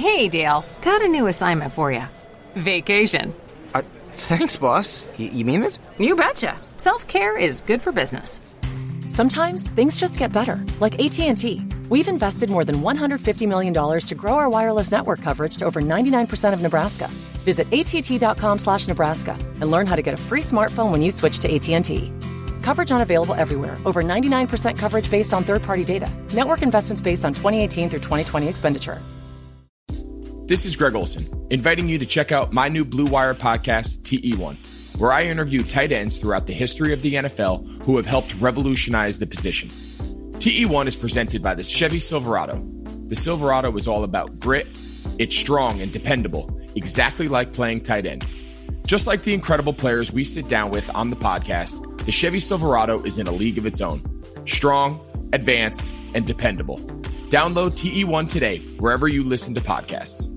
Hey, Dale. Got a new assignment for you. Vacation. Thanks, boss. You mean it? You betcha. Self-care is good for business. Sometimes things just get better, like AT&T. We've invested more than $150 million to grow our wireless network coverage to over 99% of Nebraska. Visit att.com/Nebraska and learn how to get a free smartphone when you switch to AT&T. Coverage unavailable everywhere. Over 99% coverage based on third-party data. Network investments based on 2018 through 2020 expenditure. This is Greg Olson, inviting you to check out my new Blue Wire podcast, TE1, where I interview tight ends throughout the history of the NFL who have helped revolutionize the position. TE1 is presented by the Chevy Silverado. The Silverado is all about grit, it's strong and dependable, exactly like playing tight end. Just like the incredible players we sit down with on the podcast, the Chevy Silverado is in a league of its own. Strong, advanced, and dependable. Download TE1 today, wherever you listen to podcasts.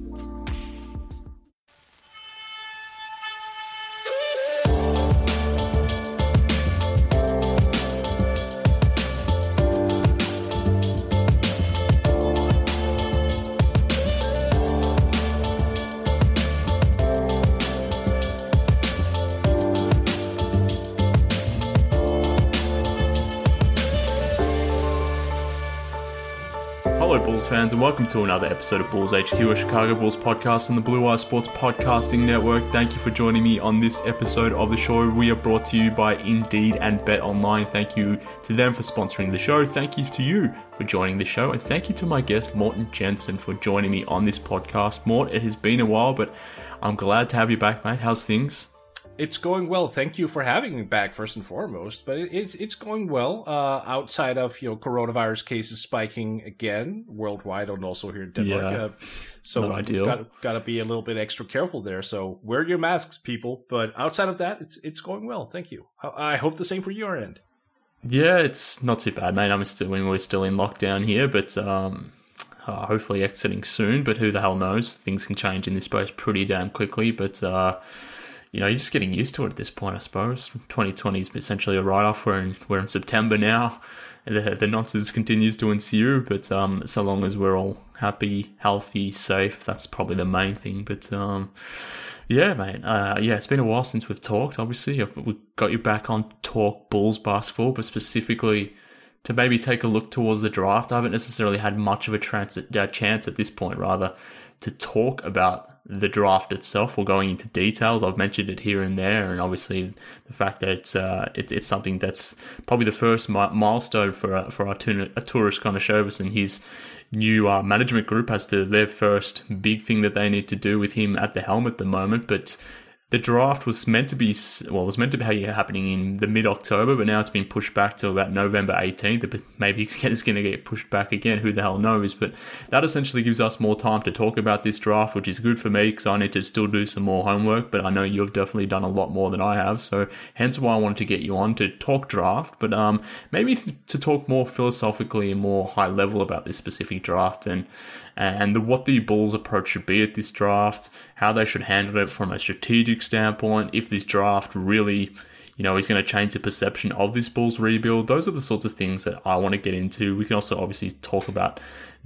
Hello Bulls fans and welcome to another episode of Bulls HQ, a Chicago Bulls podcast on the Blue Wire Sports Podcasting Network. Thank you for joining me on this episode of the show. We are brought to you by Indeed and Bet Online. Thank you to them for sponsoring the show. Thank you to you for joining the show. And thank you to my guest, Morten Jensen, for joining me on this podcast. Mort, it has been a while, but I'm glad to have you back, mate. How's things? It's going well. Thank you for having me back, first and foremost. But it's going well. Outside of coronavirus cases spiking again worldwide and also here in Denmark. Yeah, so not ideal. Got to be a little bit extra careful there. So wear your masks, people. But outside of that, it's going well. Thank you. I hope the same for your end. Yeah, it's not too bad, mate. We're still in lockdown here, but hopefully exiting soon. But who the hell knows? Things can change in this space pretty damn quickly. But you're just getting used to it at this point, I suppose. 2020 is essentially a write-off. We're in September now. The nonsense continues to ensue, but so long as we're all happy, healthy, safe, that's probably the main thing. But yeah, mate. It's been a while since we've talked. Obviously, we got you back on Talk Bulls basketball, but specifically to maybe take a look towards the draft. I haven't necessarily had much of a chance at this point, rather, to talk about the draft itself or going into details. I've mentioned it here and there, and obviously the fact that it's something that's probably the first milestone for Arturas Karnisovas and his new management group as to their first big thing that they need to do with him at the helm at the moment. But the draft was meant to be happening in the mid-October, but now it's been pushed back to about November 18th. But maybe it's going to get pushed back again. Who the hell knows? But that essentially gives us more time to talk about this draft, which is good for me because I need to still do some more homework. But I know you've definitely done a lot more than I have. So hence why I wanted to get you on to talk draft. But maybe to talk more philosophically and more high level about this specific draft and what the Bulls' approach should be at this draft, how they should handle it from a strategic standpoint, if this draft really, is going to change the perception of this Bulls rebuild. Those are the sorts of things that I want to get into. We can also obviously talk about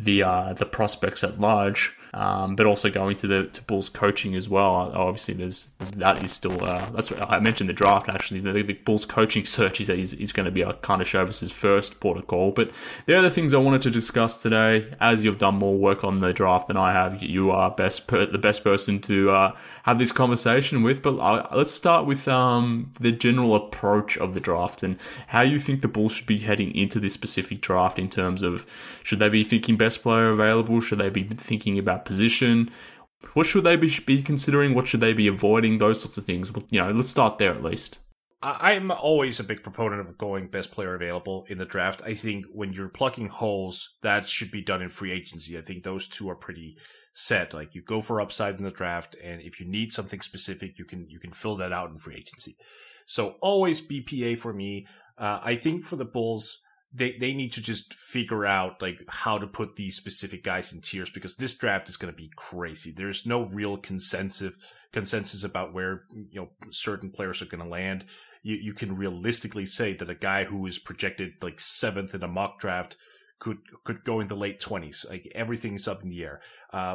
the prospects at large, but also going to Bulls coaching as well. Obviously, that is still that's what I mentioned the draft. Actually, the Bulls coaching search is going to be Karnisovas' first port of call. But the other things I wanted to discuss today, as you've done more work on the draft than I have, you are the best person to have this conversation with. But let's start with the general approach of the draft and how you think the Bulls should be heading into this specific draft in terms of, should they be thinking best player available? Should they be thinking about position? What should they be considering? What should they be avoiding? Those sorts of things. Let's start there at least. I'm always a big proponent of going best player available in the draft. I think when you're plugging holes, that should be done in free agency. I think those two are pretty set. Like, you go for upside in the draft, and if you need something specific, you can fill that out in free agency. So always BPA for me. I think for the Bulls, they need to just figure out how to put these specific guys in tiers, because this draft is going to be crazy. There's no real consensus about where certain players are going to land. You can realistically say that a guy who is projected 7th in a mock draft could go in the late 20s. Like everything's up in the air.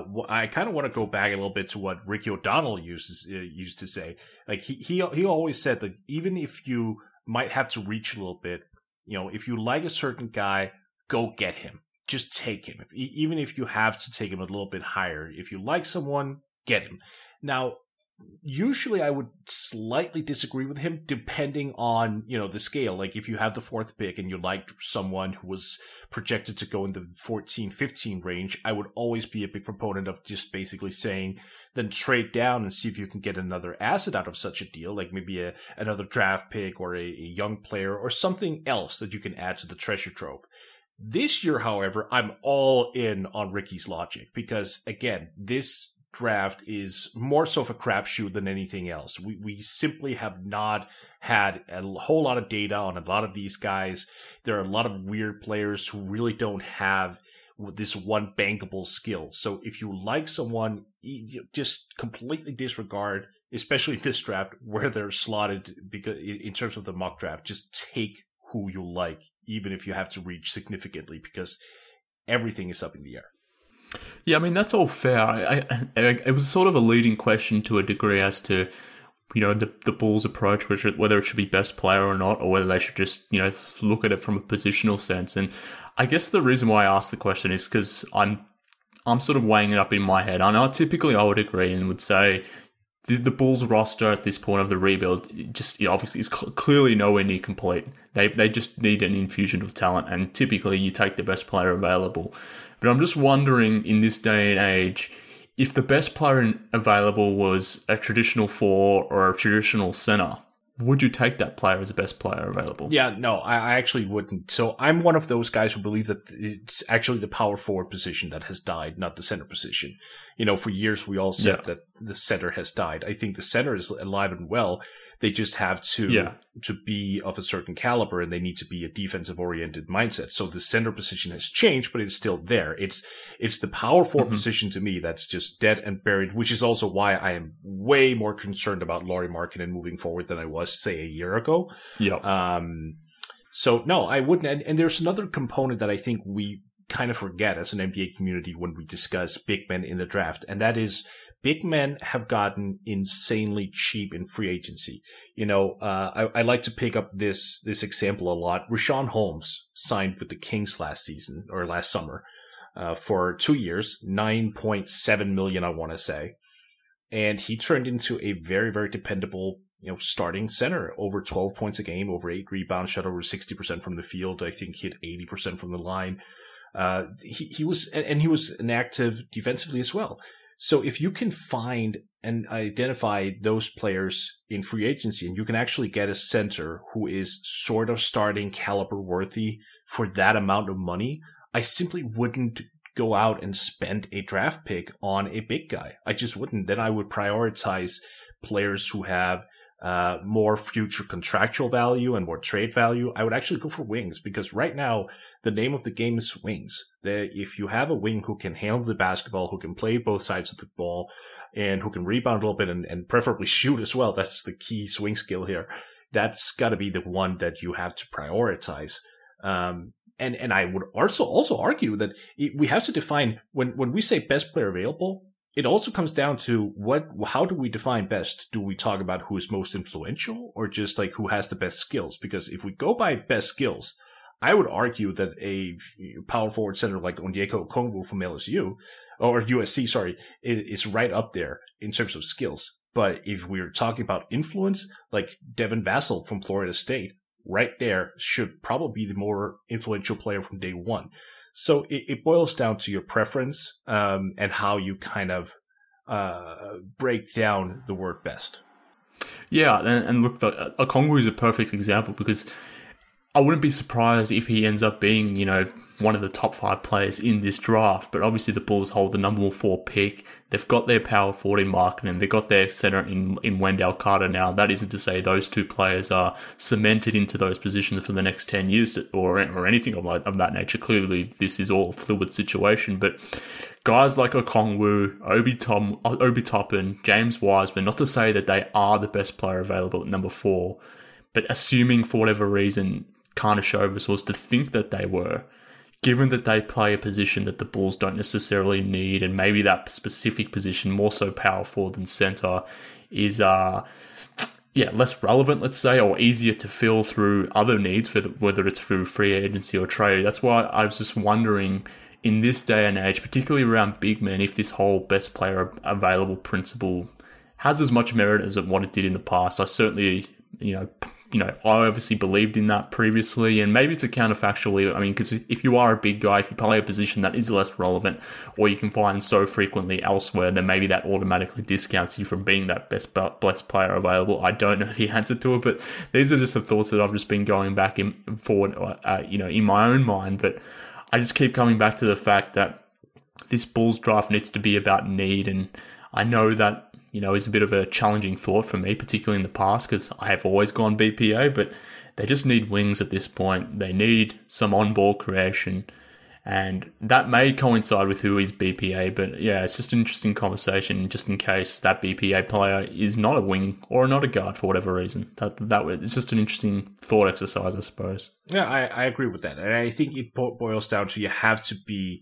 I kind of want to go back a little bit to what Ricky O'Donnell used to say. Like he always said that even if you might have to reach a little bit, if you like a certain guy, go get him. Just take him. Even if you have to take him a little bit higher. If you like someone, get him. Now, usually I would slightly disagree with him depending on, the scale. Like if you have the 4th pick and you liked someone who was projected to go in the 14-15 range, I would always be a big proponent of just basically saying, then trade down and see if you can get another asset out of such a deal, like maybe another draft pick or a young player or something else that you can add to the treasure trove. This year, however, I'm all in on Ricky's logic because, again, this draft is more so of a crapshoot than anything else. We simply have not had a whole lot of data on a lot of these guys. There are a lot of weird players who really don't have this one bankable skill. So if you like someone, just completely disregard, especially this draft where they're slotted, because in terms of the mock draft, just take who you like, even if you have to reach significantly, because everything is up in the air. Yeah, I mean, that's all fair. It was sort of a leading question to a degree as to, the Bulls' approach, whether it should be best player or not, or whether they should just, look at it from a positional sense. And I guess the reason why I asked the question is because I'm sort of weighing it up in my head. I know typically I would agree and would say the Bulls' roster at this point of the rebuild just obviously is clearly nowhere near complete. They just need an infusion of talent, and typically you take the best player available. But I'm just wondering, in this day and age, if the best player available was a traditional 4 or a traditional center, would you take that player as the best player available? Yeah, no, I actually wouldn't. So I'm one of those guys who believe that it's actually the power forward position that has died, not the center position. For years we all said that the center has died. I think the center is alive and well. They just have to be of a certain caliber, and they need to be a defensive-oriented mindset. So the center position has changed, but it's still there. It's the power forward position to me that's just dead and buried, which is also why I am way more concerned about Lauri Markkanen moving forward than I was, say, a year ago. Yeah. So no, I wouldn't. And there's another component that I think we kind of forget as an NBA community when we discuss big men in the draft, and that is big men have gotten insanely cheap in free agency. I like to pick up this example a lot. Richaun Holmes signed with the Kings last summer, for 2 years, $9.7 million, I want to say. And he turned into a very, very dependable, starting center, over 12 points a game, over 8 rebounds, shot over 60% from the field. I think hit 80% from the line. He was inactive defensively as well. So if you can find and identify those players in free agency, and you can actually get a center who is sort of starting caliber worthy for that amount of money, I simply wouldn't go out and spend a draft pick on a big guy. I just wouldn't. Then I would prioritize players who have more future contractual value and more trade value. I would actually go for wings, because right now the name of the game is wings. If you have a wing who can handle the basketball, who can play both sides of the ball, and who can rebound a little bit and preferably shoot as well, that's the key swing skill here. That's got to be the one that you have to prioritize. And I would also argue that we have to define, when we say best player available, it also comes down to how do we define best? Do we talk about who is most influential, or just like who has the best skills? Because if we go by best skills, I would argue that a power forward center like Onyeka Okongwu from LSU, or USC, sorry, is right up there in terms of skills. But if we're talking about influence, like Devin Vassell from Florida State, right there should probably be the more influential player from day one. So it boils down to your preference, and how you kind of break down the word best. Yeah, and look, Okongwu is a perfect example, because I wouldn't be surprised if he ends up being, one of the top 5 players in this draft. But obviously the Bulls hold the number 4 pick. They've got their power forward in Markkanen. They've got their center in Wendell Carter now. That isn't to say those two players are cemented into those positions for the next 10 years or anything of that nature. Clearly, this is all a fluid situation. But guys like Okongwu, Obi Toppin, James Wiseman, not to say that they are the best player available at number 4, but assuming for whatever reason Karnisovas was to think that they were, given that they play a position that the Bulls don't necessarily need, and maybe that specific position, more so power forward than center, is less relevant, let's say, or easier to fill through other needs, whether it's through free agency or trade. That's why I was just wondering, in this day and age, particularly around big men, if this whole best player available principle has as much merit as what it did in the past. I certainly, I obviously believed in that previously, and maybe it's a counterfactual. I mean, because if you are a big guy, if you play a position that is less relevant, or you can find so frequently elsewhere, then maybe that automatically discounts you from being that best player available. I don't know the answer to it, but these are just the thoughts that I've just been going back and forward, in my own mind. But I just keep coming back to the fact that this Bulls draft needs to be about need, and I know that is a bit of a challenging thought for me, particularly in the past, because I have always gone BPA, but they just need wings at this point. They need some on-ball creation, and that may coincide with who is BPA, but yeah, it's just an interesting conversation just in case that BPA player is not a wing or not a guard for whatever reason. It's just an interesting thought exercise, I suppose. Yeah, I agree with that. And I think it boils down to you have to be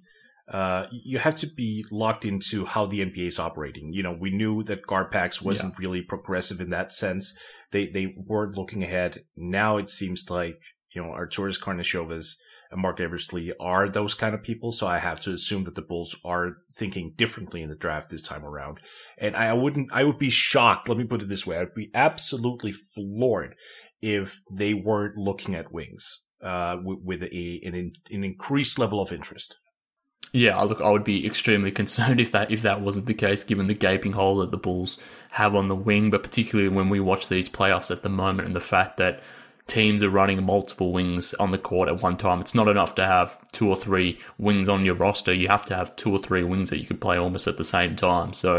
locked into how the NBA is operating. We knew that GarPax wasn't really progressive in that sense. They weren't looking ahead. Now it seems like, Arturas Karnisovas and Mark Eversley are those kind of people. So I have to assume that the Bulls are thinking differently in the draft this time around. And I would be shocked. Let me put it this way. I'd be absolutely floored if they weren't looking at wings, with an increased level of interest. Yeah, look, I would be extremely concerned if that wasn't the case, given the gaping hole that the Bulls have on the wing, but particularly when we watch these playoffs at the moment and the fact that teams are running multiple wings on the court at one time. It's not enough to have 2 or 3 wings on your roster. You have to have 2 or 3 wings that you could play almost at the same time. So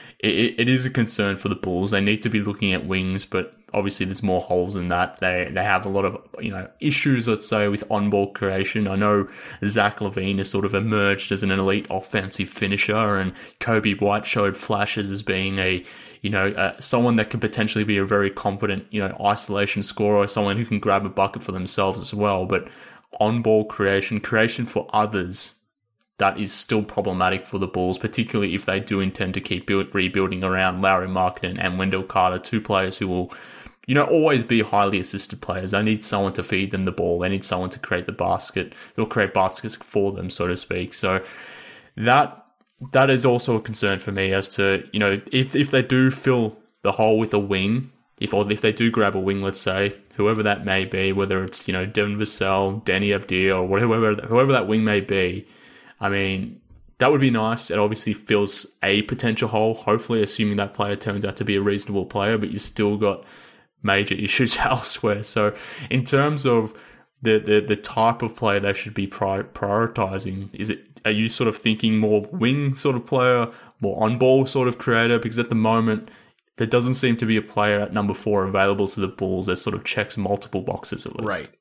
it is a concern for the Bulls. They need to be looking at wings, but obviously there's more holes in that. They have a lot of issues, let's say, with on-ball creation. I know Zach LaVine has sort of emerged as an elite offensive finisher, and Kobe White showed flashes as being someone that could potentially be a very competent, isolation scorer, someone who can grab a bucket for themselves as well. But on-ball creation for others, that is still problematic for the Bulls, particularly if they do intend to keep rebuilding around Lauri Markkanen and Wendell Carter, 2 players who will, always be highly assisted players. They need someone to feed them the ball. They need someone to create the basket. They'll create baskets for them, so to speak. So that is also a concern for me as to, if they do fill the hole with a wing, if they do grab a wing, let's say, whoever that may be, whether it's, Devin Vassell, Danny Avdija, or whoever that wing may be, I mean, that would be nice. It obviously fills a potential hole, hopefully, assuming that player turns out to be a reasonable player, but you've still got major issues elsewhere. So in terms of the type of player they should be prioritizing, are you sort of thinking more wing sort of player, more on-ball sort of creator? Because at the moment, there doesn't seem to be a player at number 4 available to the Bulls that sort of checks multiple boxes at least. Right.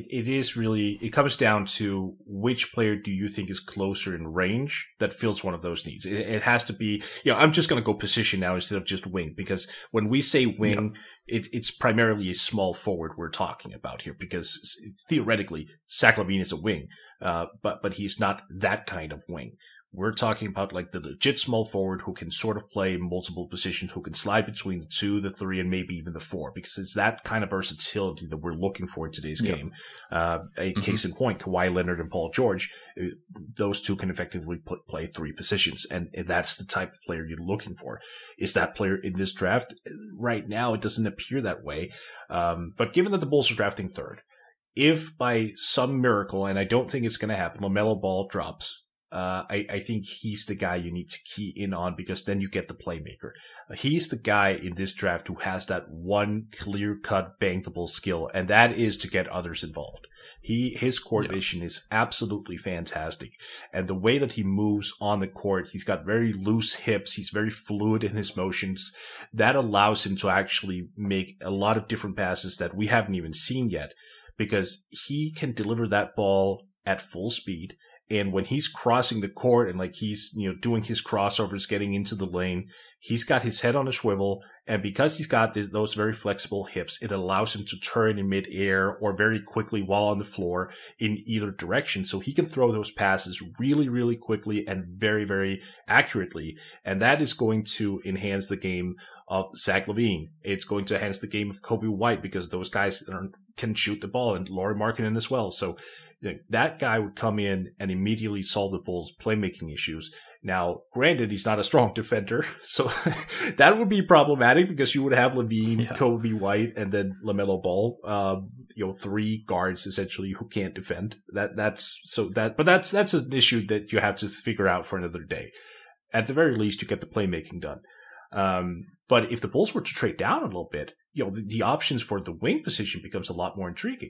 It comes down to which player do you think is closer in range that fills one of those needs. It has to be, I'm just going to go position now instead of just wing, because when we say wing, it's primarily a small forward we're talking about here, because theoretically, Zach LaVine is a wing, but he's not that kind of wing. We're talking about like the legit small forward who can sort of play multiple positions, who can slide between the 2, the 3, and maybe even the 4, because it's that kind of versatility that we're looking for in today's game. Case in point, Kawhi Leonard and Paul George, those 2 can effectively play 3 positions, and that's the type of player you're looking for. Is that player in this draft? Right now, it doesn't appear that way. But given that the Bulls are drafting 3rd, if by some miracle, and I don't think it's going to happen, LaMelo Ball drops, I think he's the guy you need to key in on, because then you get the playmaker. He's the guy in this draft who has that one clear-cut bankable skill, and that is to get others involved. His court vision is absolutely fantastic. And the way that he moves on the court, he's got very loose hips. He's very fluid in his motions. That allows him to actually make a lot of different passes that we haven't even seen yet, because he can deliver that ball at full speed, And when he's crossing the court and like he's, doing his crossovers, getting into the lane, he's got his head on a swivel. And because he's got those very flexible hips, it allows him to turn in midair or very quickly while on the floor in either direction. So he can throw those passes really, really quickly and very, very accurately. And that is going to enhance the game of Zach LaVine. It's going to enhance the game of Coby White because those guys can shoot the ball, and Lauri Markkanen as well. So that guy would come in and immediately solve the Bulls' playmaking issues. Now, granted, he's not a strong defender, so that would be problematic because you would have LaVine, Coby White, and then LaMelo Ball. 3 guards essentially who can't defend. That's an issue that you have to figure out for another day. At the very least, you get the playmaking done. But if the Bulls were to trade down a little bit, the options for the wing position becomes a lot more intriguing.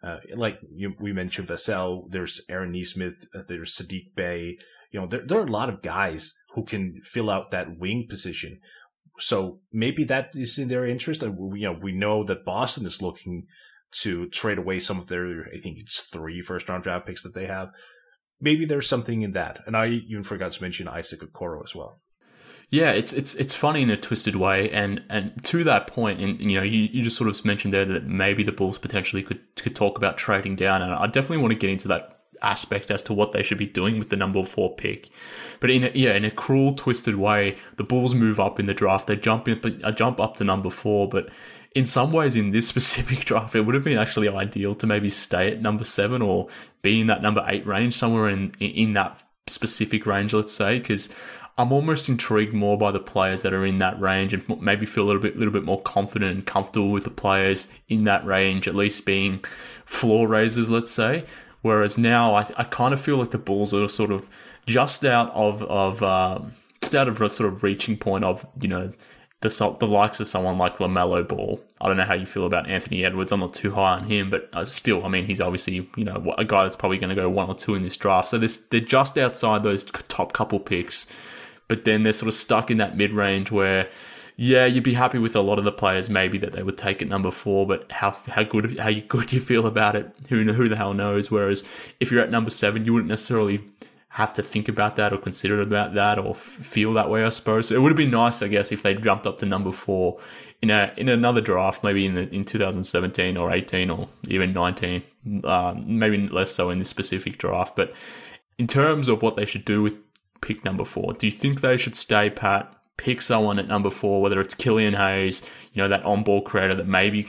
We mentioned Vassell, there's Aaron Nesmith, there's Saddiq Bey. There are a lot of guys who can fill out that wing position. So maybe that is in their interest. And we know that Boston is looking to trade away some of their, I think it's 3 first-round draft picks that they have. Maybe there's something in that. And I even forgot to mention Isaac Okoro as well. Yeah, it's funny in a twisted way, and to that point, and you just sort of mentioned there that maybe the Bulls potentially could talk about trading down, and I definitely want to get into that aspect as to what they should be doing with the number 4 pick. But in a cruel, twisted way, the Bulls move up in the draft. They jump up to number 4, but in some ways, in this specific draft, it would have been actually ideal to maybe stay at number 7 or be in that number 8 range, somewhere in that specific range, let's say, because I'm almost intrigued more by the players that are in that range and maybe feel a little bit more confident and comfortable with the players in that range, at least being floor raisers, let's say. Whereas now I kind of feel like the Bulls are sort of just out of a sort of reaching point of, the likes of someone like LaMelo Ball. I don't know how you feel about Anthony Edwards. I'm not too high on him, but still, I mean, he's obviously, a guy that's probably going to go 1 or 2 in this draft. So they're just outside those top couple picks. But then they're sort of stuck in that mid-range where, you'd be happy with a lot of the players maybe that they would take at number 4, but how good you feel about it, who the hell knows. Whereas if you're at number 7, you wouldn't necessarily have to think about that or consider about that or feel that way, I suppose. So it would have been nice, I guess, if they jumped up to number 4 in another draft, maybe in 2017 or 18 or even 19, maybe less so in this specific draft. But in terms of what they should do with pick number 4, do you think they should stay pat, pick someone at number 4, whether it's Killian Hayes, that on-ball creator that maybe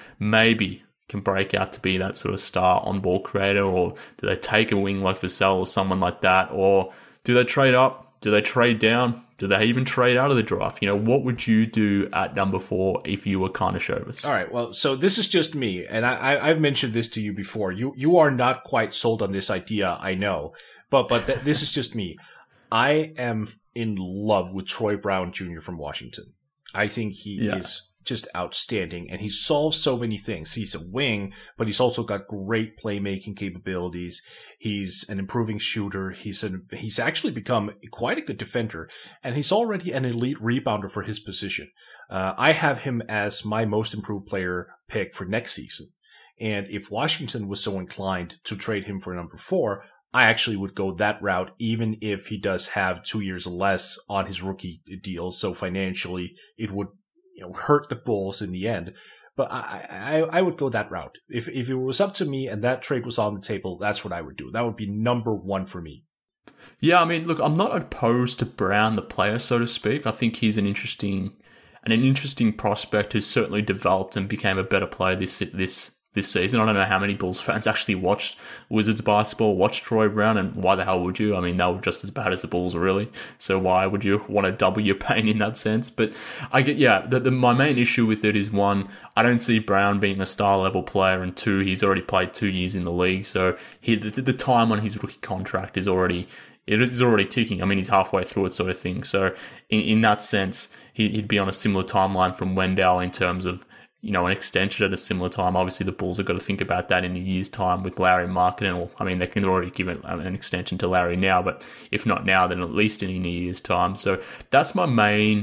can break out to be that sort of star on-ball creator, or do they take a wing like Vassell or someone like that, or do they trade up? Do they trade down? Do they even trade out of the draft? What would you do at number 4 if you were Karnisovas? All right, well, so this is just me, and I've mentioned this to you before. You are not quite sold on this idea, I know, but this is just me. I am in love with Troy Brown Jr. from Washington. I think he is just outstanding, and he solves so many things. He's a wing, but he's also got great playmaking capabilities. He's an improving shooter. He's actually become quite a good defender, and he's already an elite rebounder for his position. I have him as my most improved player pick for next season. And if Washington was so inclined to trade him for number 4, I actually would go that route, even if he does have 2 years less on his rookie deal. So financially, it would hurt the Bulls in the end. But I would go that route. If it was up to me and that trade was on the table, that's what I would do. That would be number 1 for me. Yeah, I mean, look, I'm not opposed to Brown, the player, so to speak. I think he's an interesting prospect who's certainly developed and became a better player this season. I don't know how many Bulls fans actually watched Wizards basketball, watched Troy Brown, and why the hell would you? I mean, they were just as bad as the Bulls, really. So why would you want to double your pain in that sense? But I get, my main issue with it is, 1, I don't see Brown being a star-level player, and 2, he's already played 2 years in the league, so the time on his rookie contract is already ticking. I mean, he's halfway through it, sort of thing. So in that sense, he'd be on a similar timeline from Wendell in terms of an extension at a similar time. Obviously, the Bulls have got to think about that in a year's time with Lauri Markkanen. I mean, they can already give an extension to Larry now, but if not now, then at least in a year's time. So that's my main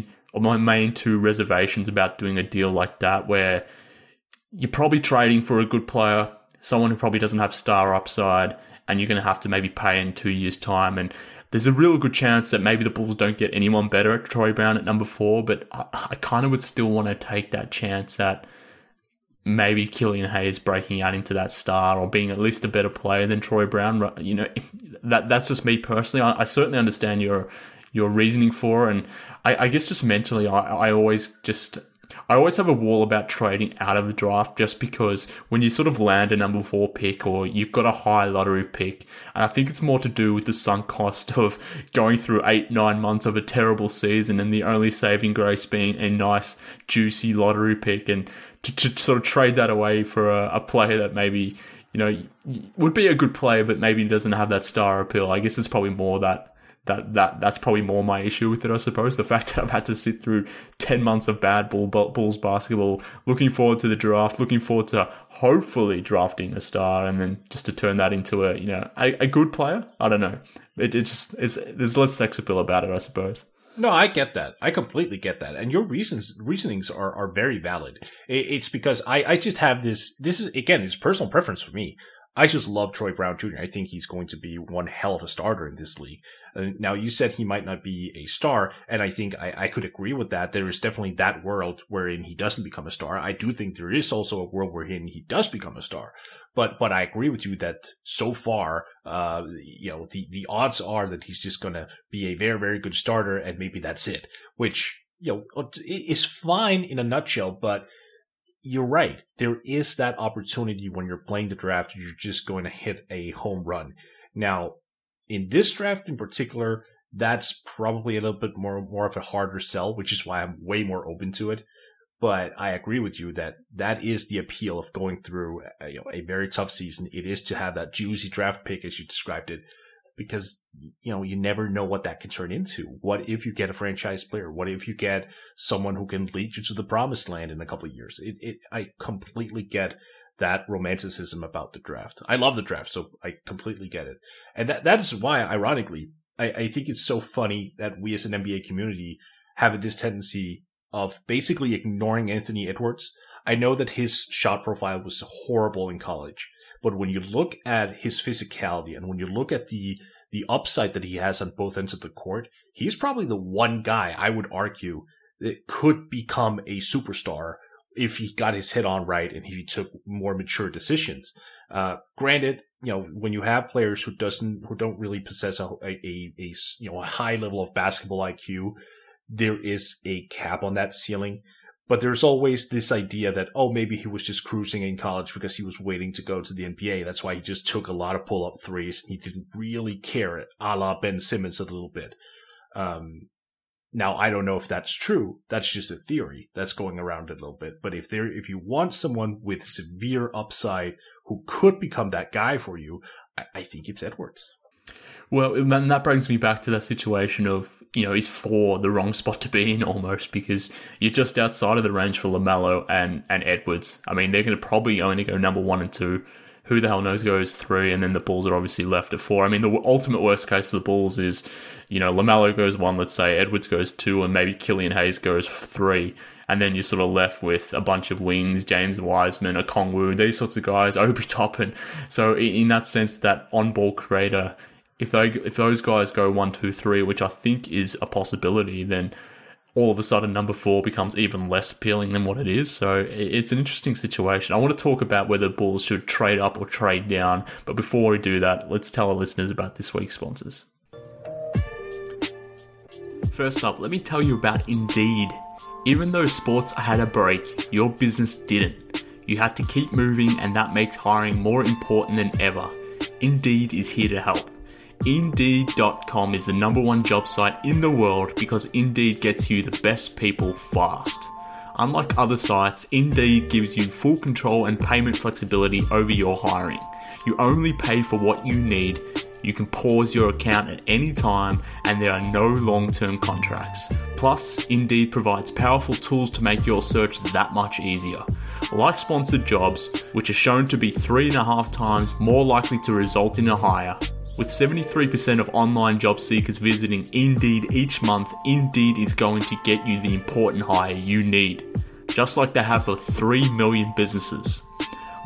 2 reservations about doing a deal like that, where you're probably trading for a good player, someone who probably doesn't have star upside, and you're going to have to maybe pay in 2 years' time. And there's a real good chance that maybe the Bulls don't get anyone better at Troy Brown at number 4, but I kind of would still want to take that chance at maybe Killian Hayes breaking out into that star or being at least a better player than Troy Brown. You know, that's just me personally. I certainly understand your reasoning for it, and I guess just mentally, I always have a wall about trading out of the draft, just because when you sort of land a number 4 pick or you've got a high lottery pick, and I think it's more to do with the sunk cost of going through 8-9 months of a terrible season and the only saving grace being a nice juicy lottery pick, and to sort of trade that away for a player that maybe, you know, would be a good player but maybe doesn't have that star appeal. I guess it's probably more that's probably more my issue with it, I suppose. The fact that I've had to sit through 10 months of bad Bulls basketball, looking forward to the draft, looking forward to hopefully drafting a star, and then just to turn that into a good player. I don't know. There's less sex appeal about it, I suppose. No, I get that. I completely get that. And your reasonings are very valid. It's because I just have this is, again, it's personal preference for me. I just love Troy Brown Jr. I think he's going to be one hell of a starter in this league. Now, you said he might not be a star, and I think I could agree with that. There is definitely that world wherein he doesn't become a star. I do think there is also a world wherein he does become a star. But I agree with you that so far, the odds are that he's just going to be a very, very good starter, and maybe that's it, which, is fine in a nutshell, but you're right. There is that opportunity when you're playing the draft. You're just going to hit a home run. Now, in this draft in particular, that's probably a little bit more of a harder sell, which is why I'm way more open to it. But I agree with you that is the appeal of going through a very tough season. It is to have that juicy draft pick, as you described it, because, you never know what that can turn into. What if you get a franchise player? What if you get someone who can lead you to the promised land in a couple of years? I completely get that romanticism about the draft. I love the draft, so I completely get it. And that is why, ironically, I think it's so funny that we as an NBA community have this tendency of basically ignoring Anthony Edwards. I know that his shot profile was horrible in college, but when you look at his physicality and when you look at the upside that he has on both ends of the court, he's probably the one guy I would argue that could become a superstar if he got his head on right and if he took more mature decisions. Granted, when you have players who don't really possess a high level of basketball IQ, there is a cap on that ceiling. But there's always this idea that, maybe he was just cruising in college because he was waiting to go to the NBA. That's why he just took a lot of pull-up threes. He didn't really care, a la Ben Simmons a little bit. Now, I don't know if that's true. That's just a theory that's going around a little bit. But if you want someone with severe upside who could become that guy for you, I think it's Edwards. Well, and that brings me back to that situation of, is 4 the wrong spot to be in almost, because you're just outside of the range for LaMelo and Edwards. I mean, they're going to probably only go number 1 and 2. Who the hell knows goes 3, and then the Bulls are obviously left at 4. I mean, the ultimate worst case for the Bulls is, LaMelo goes 1, let's say, Edwards goes 2, and maybe Killian Hayes goes 3. And then you're sort of left with a bunch of wings, James Wiseman, Okongwu, these sorts of guys, Obi Toppin. So in that sense, that on-ball creator, if those guys go 1, 2, 3, which I think is a possibility, then all of a sudden number 4 becomes even less appealing than what it is. So it's an interesting situation. I want to talk about whether Bulls should trade up or trade down. But before we do that, let's tell our listeners about this week's sponsors. First up, let me tell you about Indeed. Even though sports had a break, your business didn't. You had to keep moving, and that makes hiring more important than ever. Indeed is here to help. Indeed.com is the #1 job site in the world because Indeed gets you the best people fast. Unlike other sites, Indeed gives you full control and payment flexibility over your hiring. You only pay for what you need. You can pause your account at any time, and there are no long-term contracts. Plus, Indeed provides powerful tools to make your search that much easier. Like sponsored jobs, which are shown to be 3.5 times more likely to result in a hire. With 73% of online job seekers visiting Indeed each month, Indeed is going to get you the important hire you need, just like they have for 3 million businesses.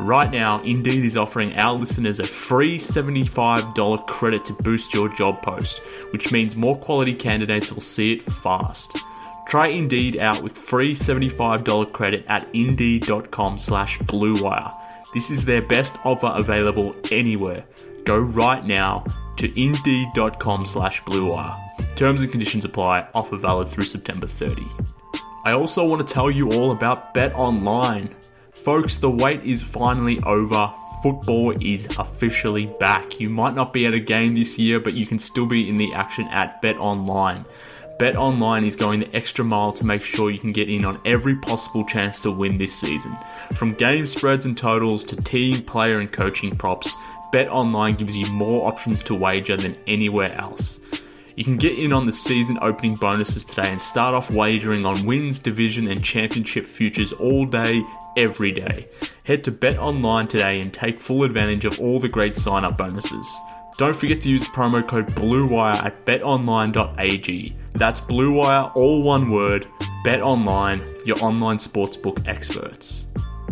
Right now, Indeed is offering our listeners a free $75 credit to boost your job post, which means more quality candidates will see it fast. Try Indeed out with free $75 credit at Indeed.com/BlueWire. This is their best offer available anywhere. Go right now to Indeed.com/BlueWire. Terms and conditions apply. Offer valid through September 30. I also want to tell you all about BetOnline. Folks, the wait is finally over. Football is officially back. You might not be at a game this year, but you can still be in the action at BetOnline. BetOnline is going the extra mile to make sure you can get in on every possible chance to win this season. From game spreads and totals to team, player and coaching props, BetOnline gives you more options to wager than anywhere else. You can get in on the season opening bonuses today and start off wagering on wins, division and championship futures all day, every day. Head to BetOnline today and take full advantage of all the great sign-up bonuses. Don't forget to use promo code BlueWire at betonline.ag. That's BlueWire, all one word. BetOnline, your online sportsbook experts.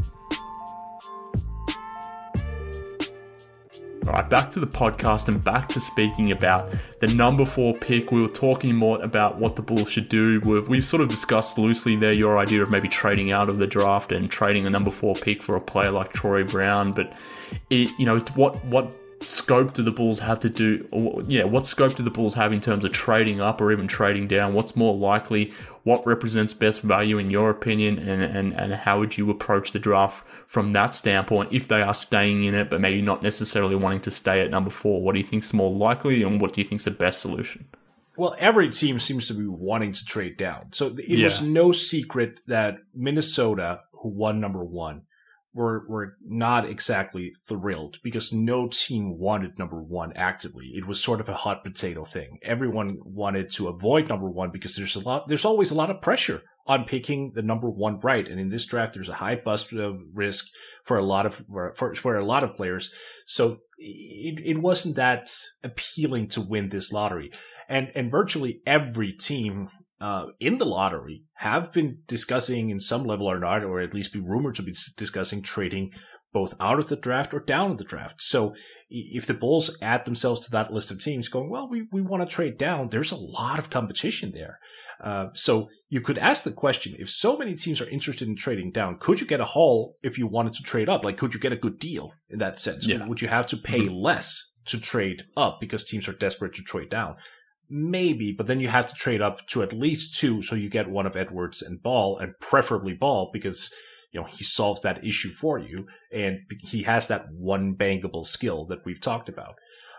Alright, back to the podcast and back to speaking about the number 4 pick. We were talking more about what the Bulls should do. We've sort of discussed loosely there your idea of maybe trading out of the draft and trading a number 4 pick for a player like Troy Brown. But what scope do the Bulls have to do? What scope do the Bulls have in terms of trading up or even trading down? What's more likely? What represents best value in your opinion? And how would you approach the draft from that standpoint if they are staying in it, but maybe not necessarily wanting to stay at number 4? What do you think is more likely, and what do you think is the best solution? Well, every team seems to be wanting to trade down. So it was no secret that Minnesota, who won number 1, were not exactly thrilled because no team wanted number 1 actively. It was sort of a hot potato thing. Everyone wanted to avoid number 1 because there's always a lot of pressure on picking the number 1 right. And in this draft, there's a high bust risk for a lot of players. So it wasn't that appealing to win this lottery. And virtually every team in the lottery have been discussing in some level or not, or at least be rumored to be discussing trading both out of the draft or down of the draft. So if the Bulls add themselves to that list of teams going, well, we want to trade down, there's a lot of competition there. So you could ask the question, if so many teams are interested in trading down, could you get a haul if you wanted to trade up? Like, could you get a good deal in that sense? Yeah. Would you have to pay less to trade up because teams are desperate to trade down? Maybe, but then you have to trade up to at least 2, so you get one of Edwards and Ball, and preferably Ball, because he solves that issue for you, and he has that one bankable skill that we've talked about.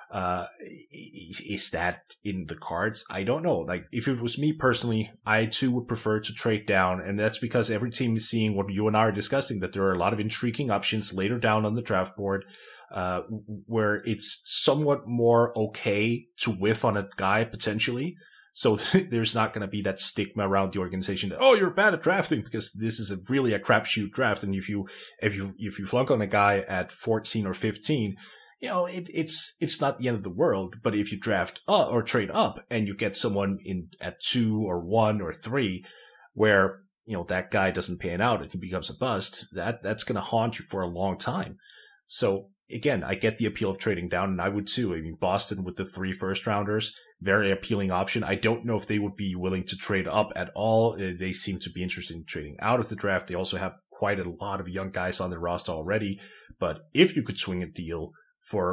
Is that in the cards? I don't know. Like, if it was me personally, I too would prefer to trade down, and that's because every team is seeing what you and I are discussing, that there are a lot of intriguing options later down on the draft board. Where it's somewhat more okay to whiff on a guy potentially. So there's not going to be that stigma around the organization that, oh, you're bad at drafting, because this is really a crapshoot draft. And if you flunk on a guy at 14 or 15, it's not the end of the world. But if you draft up or trade up and you get someone in at 2 or 1 or 3, where that guy doesn't pan out and he becomes a bust, that's going to haunt you for a long time. So again, I get the appeal of trading down, and I would too. I mean, Boston with the 3 first-rounders, very appealing option. I don't know if they would be willing to trade up at all. They seem to be interested in trading out of the draft. They also have quite a lot of young guys on their roster already. But if you could swing a deal for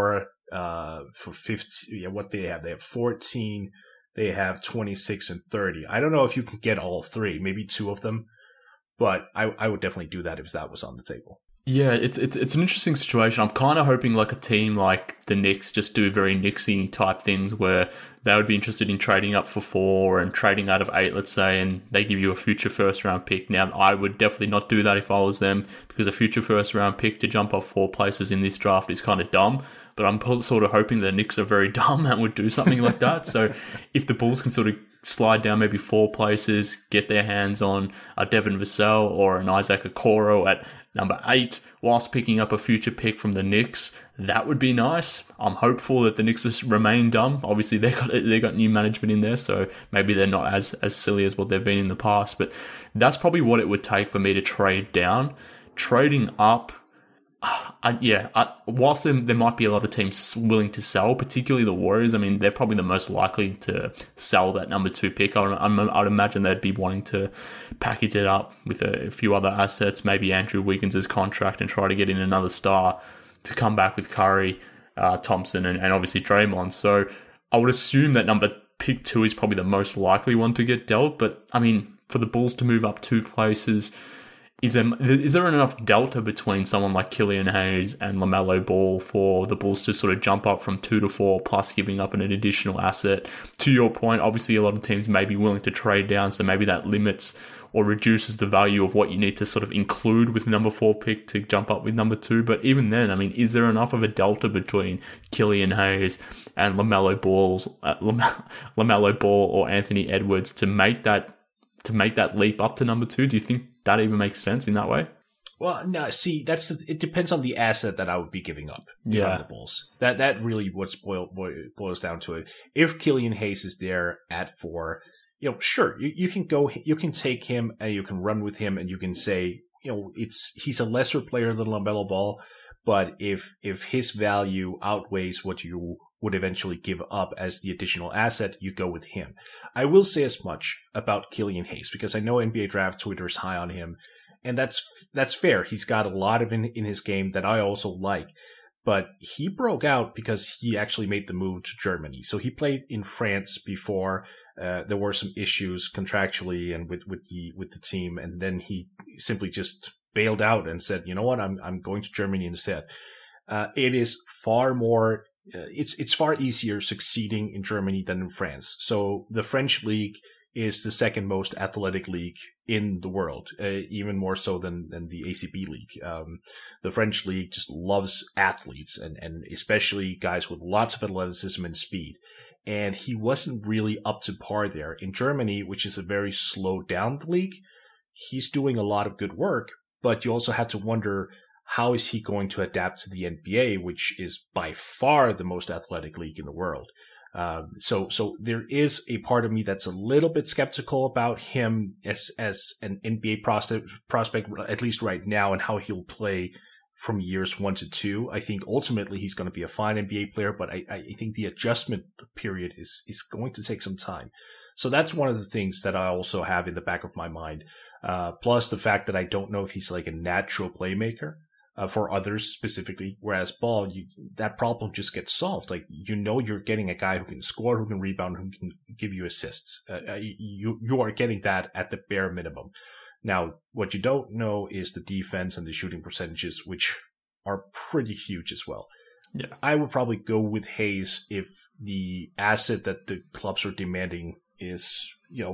15, what they have 14, they have 26 and 30. I don't know if you can get all 3, maybe 2 of them, but I would definitely do that if that was on the table. Yeah, it's an interesting situation. I'm kind of hoping like a team like the Knicks just do very Knicksy type things where they would be interested in trading up for 4 and trading out of 8, let's say, and they give you a future first round pick. Now, I would definitely not do that if I was them, because a future first round pick to jump off 4 places in this draft is kind of dumb. But I'm sort of hoping the Knicks are very dumb and would do something like that. So if the Bulls can sort of slide down maybe 4 places, get their hands on a Devin Vassell or an Isaac Okoro at number 8, whilst picking up a future pick from the Knicks, that would be nice. I'm hopeful that the Knicks remain dumb. Obviously, they got new management in there, so maybe they're not as silly as what they've been in the past. But that's probably what it would take for me to trade down. Trading up, Whilst there might be a lot of teams willing to sell, particularly the Warriors, I mean, they're probably the most likely to sell that number 2 pick. I'd imagine they'd be wanting to package it up with a few other assets, maybe Andrew Wiggins' contract, and try to get in another star to come back with Curry, Thompson, and obviously Draymond. So I would assume that pick 2 is probably the most likely one to get dealt. But I mean, for the Bulls to move up 2 places, is there enough delta between someone like Killian Hayes and LaMelo Ball for the Bulls to sort of jump up from 2 to 4, plus giving up an additional asset? To your point, obviously a lot of teams may be willing to trade down, so maybe that limits or reduces the value of what you need to sort of include with number 4 pick to jump up with number 2. But even then, I mean, is there enough of a delta between Killian Hayes and LaMelo Ball or Anthony Edwards to make that leap up to number 2? Do you think that even makes sense in that way? Well, no, see, it depends on the asset that I would be giving up from the Bulls. That really what boils down to it. If Killian Hayes is there at 4, sure, you can take him and you can run with him and you can say, he's a lesser player than LaMelo Ball, but if his value outweighs what you would eventually give up as the additional asset, you go with him. I will say as much about Killian Hayes because I know NBA Draft Twitter is high on him, and that's fair. He's got a lot of in his game that I also like, but he broke out because he actually made the move to Germany. So he played in France before. There were some issues contractually and with the team, and then he simply just bailed out and said, "You know what? I'm going to Germany instead." It is far more. It's far easier succeeding in Germany than in France. So the French league is the second most athletic league in the world, even more so than the ACB league. The French league just loves athletes and especially guys with lots of athleticism and speed. And he wasn't really up to par there. In Germany, which is a very slow down league, he's doing a lot of good work, but you also have to wonder, how is he going to adapt to the NBA, which is by far the most athletic league in the world? So there is a part of me that's a little bit skeptical about him as an NBA prospect, at least right now, and how he'll play from years 1 to 2. I think ultimately he's going to be a fine NBA player, but I think the adjustment period is going to take some time. So that's one of the things that I also have in the back of my mind. Plus the fact that I don't know if he's like a natural playmaker. For others specifically, whereas Ball, that problem just gets solved. Like, you're getting a guy who can score, who can rebound, who can give you assists. You are getting that at the bare minimum. Now, what you don't know is the defense and the shooting percentages, which are pretty huge as well. Yeah, I would probably go with Hayes if the asset that the clubs are demanding is,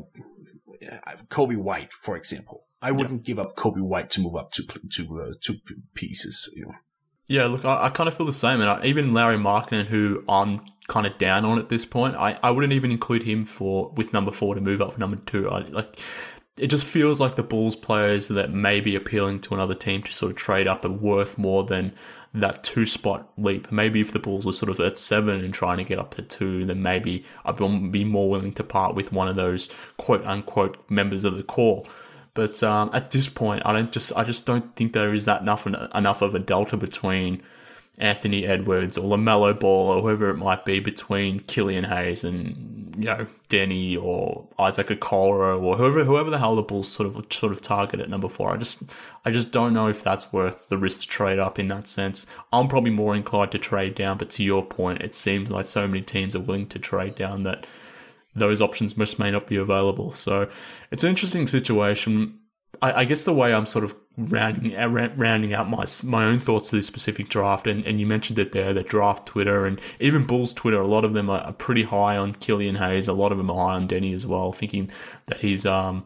Kobe White, for example. I wouldn't give up Kobe White to move up two pieces. Yeah, look, I kind of feel the same. And even Lauri Markkanen, who I'm kind of down on at this point, I wouldn't even include him with number 4 to move up for number 2. It just feels like the Bulls players that may be appealing to another team to sort of trade up are worth more than that 2-spot leap. Maybe if the Bulls were sort of at 7 and trying to get up to 2, then maybe I'd be more willing to part with one of those quote-unquote members of the core. But at this point, I just don't think there is that enough of a delta between Anthony Edwards or LaMelo Ball or whoever it might be between Killian Hayes and Denny or Isaac Okoro or whoever the hell the Bulls sort of target at number 4. I just don't know if that's worth the risk to trade up in that sense. I'm probably more inclined to trade down, but to your point, it seems like so many teams are willing to trade down that those options just may not be available. So it's an interesting situation. I guess the way I'm sort of rounding out my own thoughts to this specific draft, and you mentioned it there, the draft Twitter and even Bulls Twitter, a lot of them are pretty high on Killian Hayes. A lot of them are high on Denny as well, thinking that he's not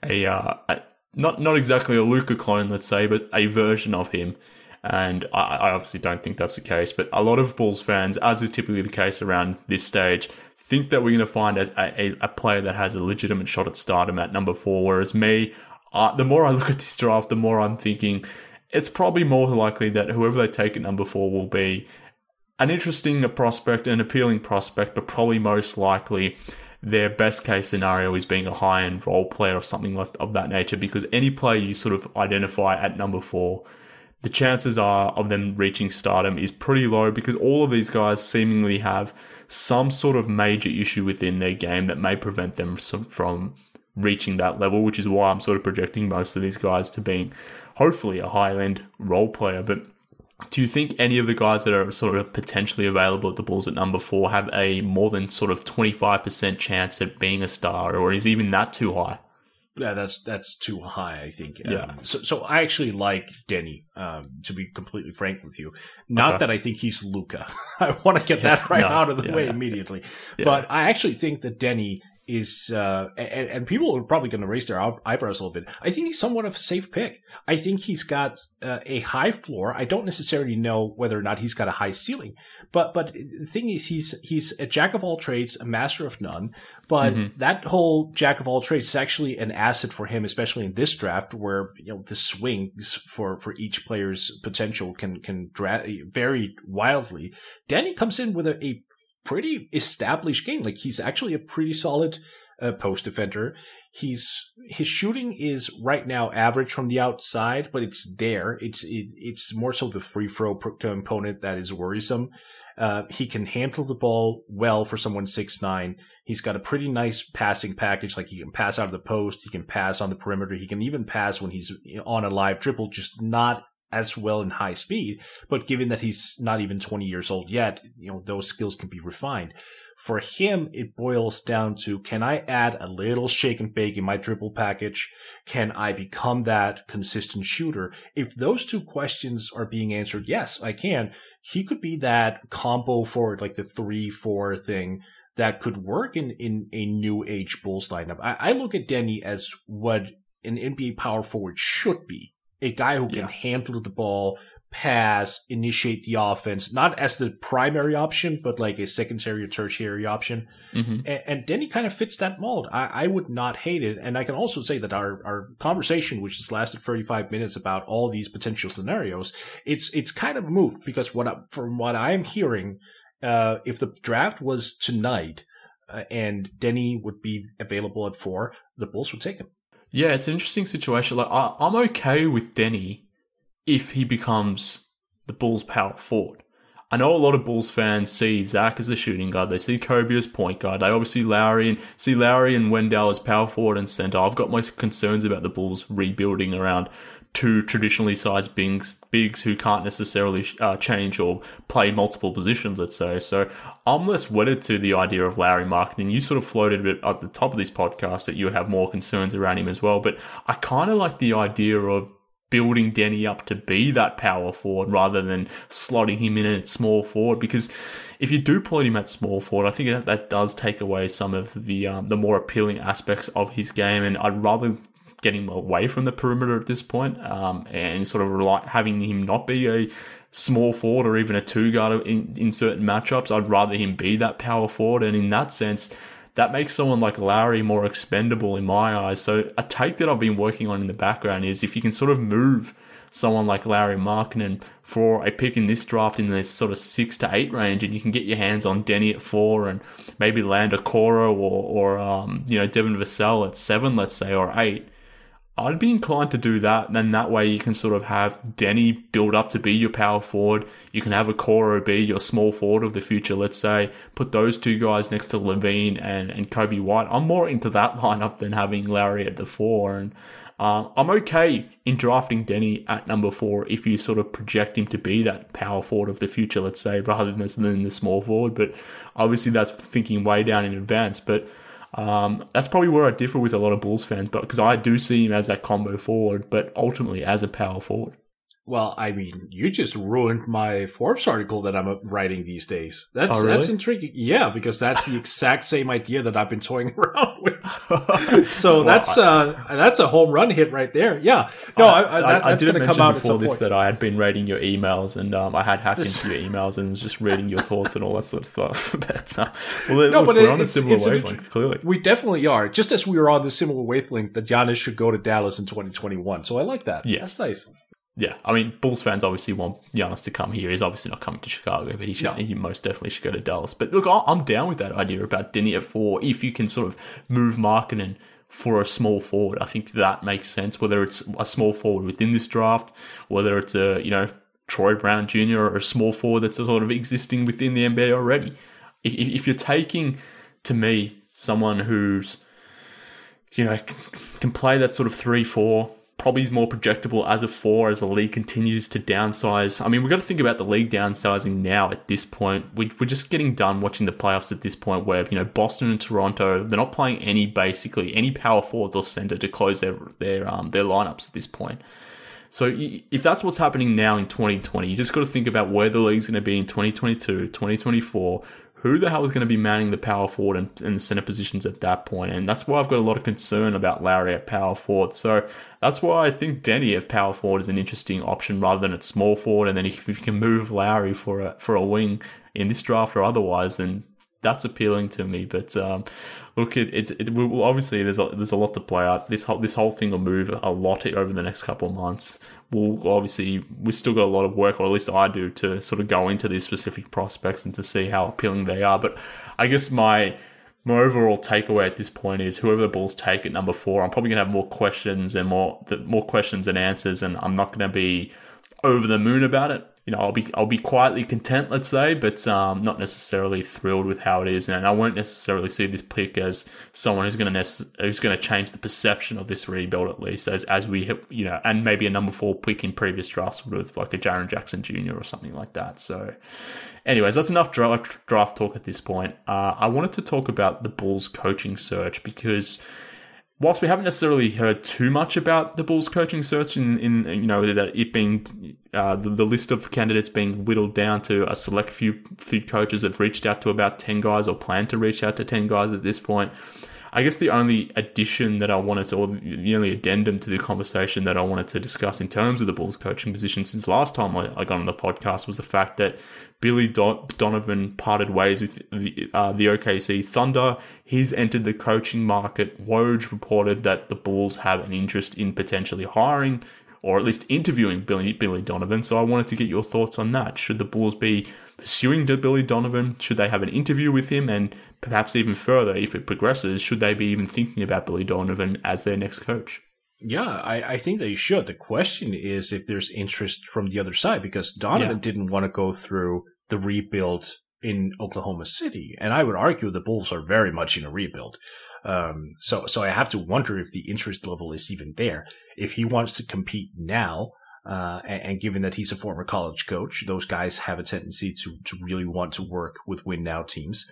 exactly a Luka clone, let's say, but a version of him. And I obviously don't think that's the case, but a lot of Bulls fans, as is typically the case around this stage, think that we're going to find a player that has a legitimate shot at stardom at number 4, whereas me, the more I look at this draft, the more I'm thinking it's probably more likely that whoever they take at number 4 will be an interesting prospect, an appealing prospect, but probably most likely their best case scenario is being a high-end role player or something of that nature, because any player you sort of identify at number 4 the chances are of them reaching stardom is pretty low because all of these guys seemingly have some sort of major issue within their game that may prevent them from reaching that level, which is why I'm sort of projecting most of these guys to being hopefully a high-end role player. But do you think any of the guys that are sort of potentially available at the Bulls at number 4 have a more than sort of 25% chance at being a star, or is even that too high? Yeah, that's too high, I think. Yeah. So I actually like Denny, to be completely frank with you. Not that I think he's Luka. I want to get that out of the way immediately. Yeah. But I actually think that Denny is, and people are probably going to raise their eyebrows a little bit. I think he's somewhat of a safe pick. I think he's got a high floor. I don't necessarily know whether or not he's got a high ceiling, but the thing is, he's a jack of all trades, a master of none. But that whole jack of all trades is actually an asset for him, especially in this draft, where the swings for each player's potential can vary wildly. Danny comes in with a pretty established game. Like, he's actually a pretty solid post defender. His shooting is right now average from the outside, but it's there. It's more so the free throw component that is worrisome. He can handle the ball well for someone 6'9". He's got a pretty nice passing package. Like, he can pass out of the post. He can pass on the perimeter. He can even pass when he's on a live dribble, just not as well in high speed. But given that he's not even 20 years old yet, those skills can be refined. For him, it boils down to, can I add a little shake and bake in my dribble package? Can I become that consistent shooter? If those two questions are being answered, yes, I can. He could be that combo forward, like the 3-4 thing that could work in a new age Bulls lineup. I look at Denny as what an NBA power forward should be. A guy who can handle the ball, pass, initiate the offense, not as the primary option, but like a secondary or tertiary option. And Denny kind of fits that mold. I would not hate it. And I can also say that our conversation, which has lasted 35 minutes about all these potential scenarios, it's kind of moot because from what I'm hearing, if the draft was tonight and Denny would be available at 4, the Bulls would take him. Yeah, it's an interesting situation. Like, I'm okay with Denny if he becomes the Bulls' power forward. I know a lot of Bulls fans see Zach as the shooting guard. They see Kobe as point guard. They obviously see Lowry and Wendell as power forward and center. I've got my concerns about the Bulls rebuilding around two traditionally sized bigs who can't necessarily change or play multiple positions, let's say. So I'm less wedded to the idea of Lauri Markkanen. You sort of floated a bit at the top of this podcast that you would have more concerns around him as well. But I kind of like the idea of building Denny up to be that power forward rather than slotting him in at small forward, because if you do put him at small forward, I think that does take away some of the more appealing aspects of his game, and I'd rather get him away from the perimeter at this point, and sort of having him not be a small forward or even a 2-guard in certain matchups. I'd rather him be that power forward, and in that sense, that makes someone like Lowry more expendable in my eyes. So a take that I've been working on in the background is if you can sort of move someone like Lauri Markkanen for a pick in this draft in this sort of 6 to 8 range, and you can get your hands on Denny at 4 and maybe land a Okoro or Devin Vassell at 7, let's say, or 8. I'd be inclined to do that, and then that way you can sort of have Denny build up to be your power forward. You can have Okoro be your small forward of the future, let's say. Put those two guys next to Levine and Kobe White. I'm more into that lineup than having Lowry at the 4. And I'm okay in drafting Denny at number 4 if you sort of project him to be that power forward of the future, let's say, rather than the small forward. But obviously that's thinking way down in advance. But that's probably where I differ with a lot of Bulls fans, but because I do see him as that combo forward, but ultimately as a power forward. Well, I mean, you just ruined my Forbes article that I'm writing these days. That's intriguing. Yeah, because that's the exact same idea that I've been toying around with. So that's a home run hit right there. Yeah. No, that's going to come out at some point. That I had been reading your emails, and I had hacked into your emails and was just reading your thoughts and all that sort of stuff. But we're on a similar wavelength, clearly. We definitely are. Just as we were on the similar wavelength that Giannis should go to Dallas in 2021. So I like that. Yeah. That's nice. Yeah, I mean, Bulls fans obviously want Giannis to come here. He's obviously not coming to Chicago, but he most definitely should go to Dallas. But look, I'm down with that idea about Denny at 4 if you can sort of move Markkanen for a small forward. I think that makes sense, whether it's a small forward within this draft, whether it's Troy Brown Jr. or a small forward that's sort of existing within the NBA already. If you're taking, to me, someone who's, can play that sort of 3-4, probably is more projectable as a 4 as the league continues to downsize. I mean, we've got to think about the league downsizing now at this point. We're just getting done watching the playoffs at this point where, Boston and Toronto, they're not playing any power forwards or center to close their lineups at this point. So if that's what's happening now in 2020, you just got to think about where the league's going to be in 2022, 2024. Who the hell is going to be manning the power forward and the center positions at that point? And that's why I've got a lot of concern about Lowry at power forward. So that's why I think Denny at power forward is an interesting option rather than at small forward. And then if you can move Lowry for a wing in this draft or otherwise, then that's appealing to me. But look, obviously there's a lot to play out. This whole thing will move a lot over the next couple of months. We've still got a lot of work, or at least I do, to sort of go into these specific prospects and to see how appealing they are. But I guess my overall takeaway at this point is whoever the Bulls take at number 4, I'm probably going to have more questions than answers, and I'm not going to be over the moon about it. I'll be quietly content, let's say, but not necessarily thrilled with how it is, and I won't necessarily see this pick as someone who's going to change the perception of this rebuild, at least as we and maybe a number 4 pick in previous drafts would have, like a Jaren Jackson Jr. or something like that. So, anyways, that's enough draft talk at this point. I wanted to talk about the Bulls coaching search because, whilst we haven't necessarily heard too much about the Bulls coaching search in that it being the list of candidates being whittled down to a select few coaches that have reached out to about 10 guys or plan to reach out to 10 guys at this point, I guess the only addition that I wanted to, or the only addendum to the conversation that I wanted to discuss in terms of the Bulls coaching position since last time I got on the podcast was the fact that Billy Donovan parted ways with the OKC Thunder. He's entered the coaching market. Woj reported that the Bulls have an interest in potentially hiring or at least interviewing Billy Donovan. So I wanted to get your thoughts on that. Should the Bulls be pursuing Billy Donovan? Should they have an interview with him? And perhaps even further, if it progresses, should they be even thinking about Billy Donovan as their next coach? Yeah, I think they should. The question is if there's interest from the other side, because Donovan didn't want to go through the rebuild in Oklahoma City. And I would argue the Bulls are very much in a rebuild. So I have to wonder if the interest level is even there. If he wants to compete now, and given that he's a former college coach, those guys have a tendency to really want to work with win now teams.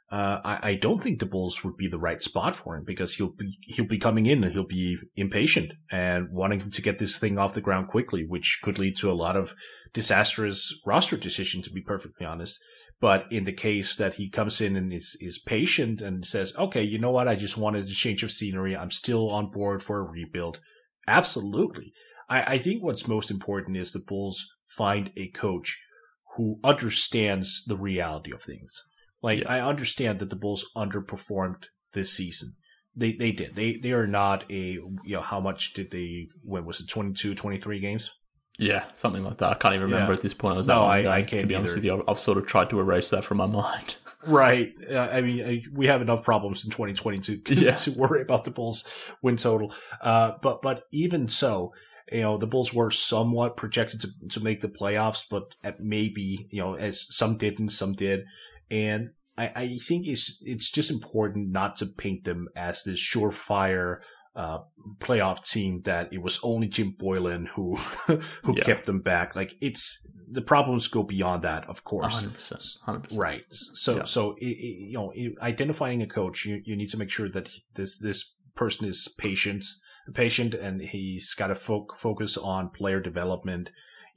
I don't think the Bulls would be the right spot for him because he'll be coming in and he'll be impatient and wanting to get this thing off the ground quickly, which could lead to a lot of disastrous roster decisions, to be perfectly honest. But in the case that he comes in and is patient and says, okay, you know what? I just wanted a change of scenery. I'm still on board for a rebuild. Absolutely. I think what's most important is the Bulls find a coach who understands the reality of things. I understand that the Bulls underperformed this season. They did. They are not how much did they win? Was it 22, 23 games? Yeah, something like that. I can't even remember at this point. I can't, to be honest with you. I've sort of tried to erase that from my mind. Right. We have enough problems in 2022 to worry about the Bulls win total. But even so, the Bulls were somewhat projected to make the playoffs, but maybe, as some didn't, some did. And I think it's just important not to paint them as this surefire playoff team that it was only Jim Boylan who kept them back. The problems go beyond that, of course. 100%. Right. So identifying a coach, you need to make sure that this person is patient, and he's got to focus on player development.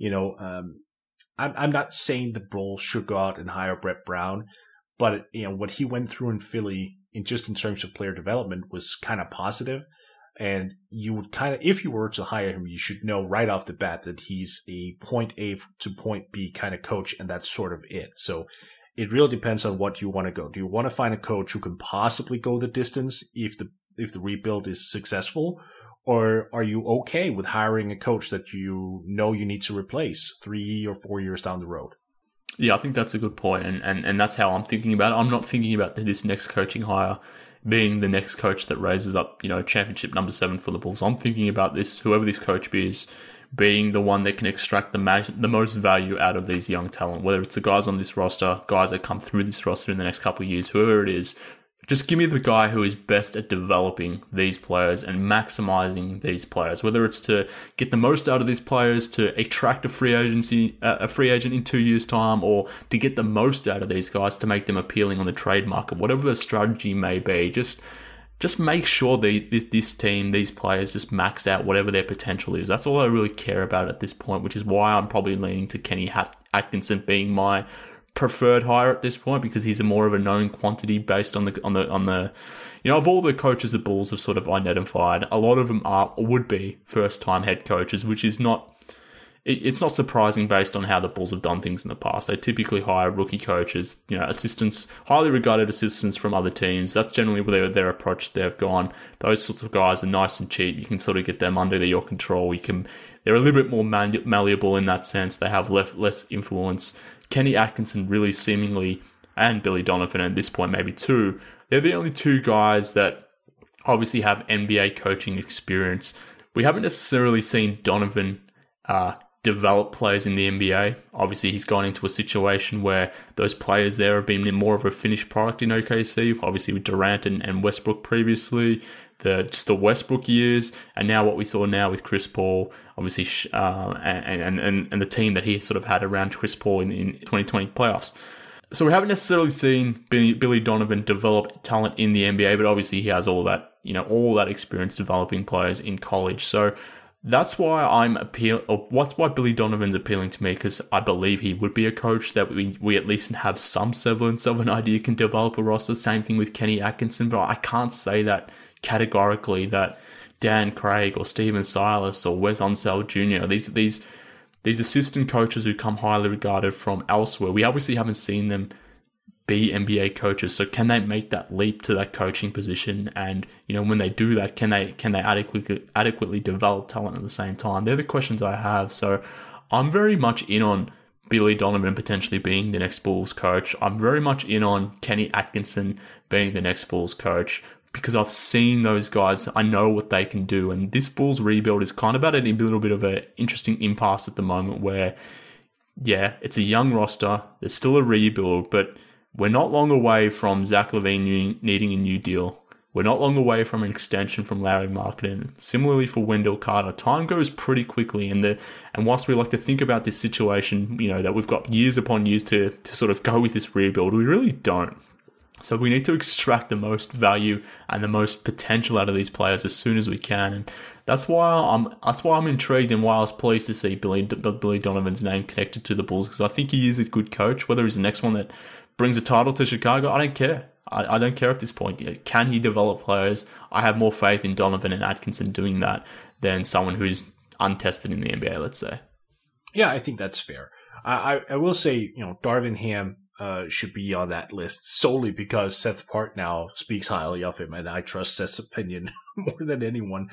I'm not saying the Bulls should go out and hire Brett Brown, but what he went through in Philly, in terms of player development, was kind of positive. And you would if you were to hire him, you should know right off the bat that he's a point A to point B kind of coach, and that's sort of it. So it really depends on what you want to go. Do you want to find a coach who can possibly go the distance if the rebuild is successful? Or are you okay with hiring a coach that you need to replace 3 or 4 years down the road? Yeah, I think that's a good point, and that's how I'm thinking about it. I'm not thinking about this next coaching hire being the next coach that raises up, championship number 7 for the Bulls. I'm thinking about this, whoever this coach is, being the one that can extract the most value out of these young talent, whether it's the guys on this roster, guys that come through this roster in the next couple of years, whoever it is. Just give me the guy who is best at developing these players and maximizing these players, whether it's to get the most out of these players, to attract a free agent in 2 years' time, or to get the most out of these guys to make them appealing on the trade market, whatever the strategy may be. Just make sure this team, these players, just max out whatever their potential is. That's all I really care about at this point, which is why I'm probably leaning to Kenny Atkinson being my preferred hire at this point, because he's more of a known quantity based on the of all the coaches the Bulls have sort of identified, a lot of them would be first time head coaches, which is not surprising based on how the Bulls have done things in the past. They typically hire rookie coaches, assistants, highly regarded assistants from other teams. That's generally where their approach they've gone. Those sorts of guys are nice and cheap. You can sort of get them under your control. They're a little bit more malleable in that sense. They have less influence. Kenny Atkinson really seemingly, and Billy Donovan at this point maybe too, they're the only two guys that obviously have NBA coaching experience. We haven't necessarily seen Donovan develop players in the NBA. Obviously, he's gone into a situation where those players there have been more of a finished product in OKC, obviously with Durant and Westbrook previously, the Westbrook years, and now what we saw now with Chris Paul, obviously, and the team that he sort of had around Chris Paul in 2020 playoffs. So we haven't necessarily seen Billy Donovan develop talent in the NBA, but obviously he has all that experience developing players in college. So that's why why Billy Donovan's appealing to me, because I believe he would be a coach that we at least have some semblance of an idea can develop a roster. Same thing with Kenny Atkinson, but I can't say that categorically that Dan Craig or Steven Silas or Wes Unseld Jr., these assistant coaches who come highly regarded from elsewhere, we obviously haven't seen them be NBA coaches. So can they make that leap to that coaching position? And, when they do that, can they adequately develop talent at the same time? They're the questions I have. So I'm very much in on Billy Donovan potentially being the next Bulls coach. I'm very much in on Kenny Atkinson being the next Bulls coach, because I've seen those guys. I know what they can do. And this Bulls rebuild is kind of at a little bit of an interesting impasse at the moment where, it's a young roster. There's still a rebuild, but we're not long away from Zach LaVine needing a new deal. We're not long away from an extension from Larry Marketing. Similarly for Wendell Carter, time goes pretty quickly. And whilst we like to think about this situation, that we've got years upon years to sort of go with this rebuild, we really don't. So we need to extract the most value and the most potential out of these players as soon as we can. And that's why I'm intrigued, and why I was pleased to see Billy Donovan's name connected to the Bulls, because I think he is a good coach. Whether he's the next one that brings a title to Chicago, I don't care. I don't care at this point. Can he develop players? I have more faith in Donovan and Atkinson doing that than someone who's untested in the NBA, let's say. Yeah, I think that's fair. I will say, Darvin Ham should be on that list solely because Seth Partnow speaks highly of him, and I trust Seth's opinion more than anyone.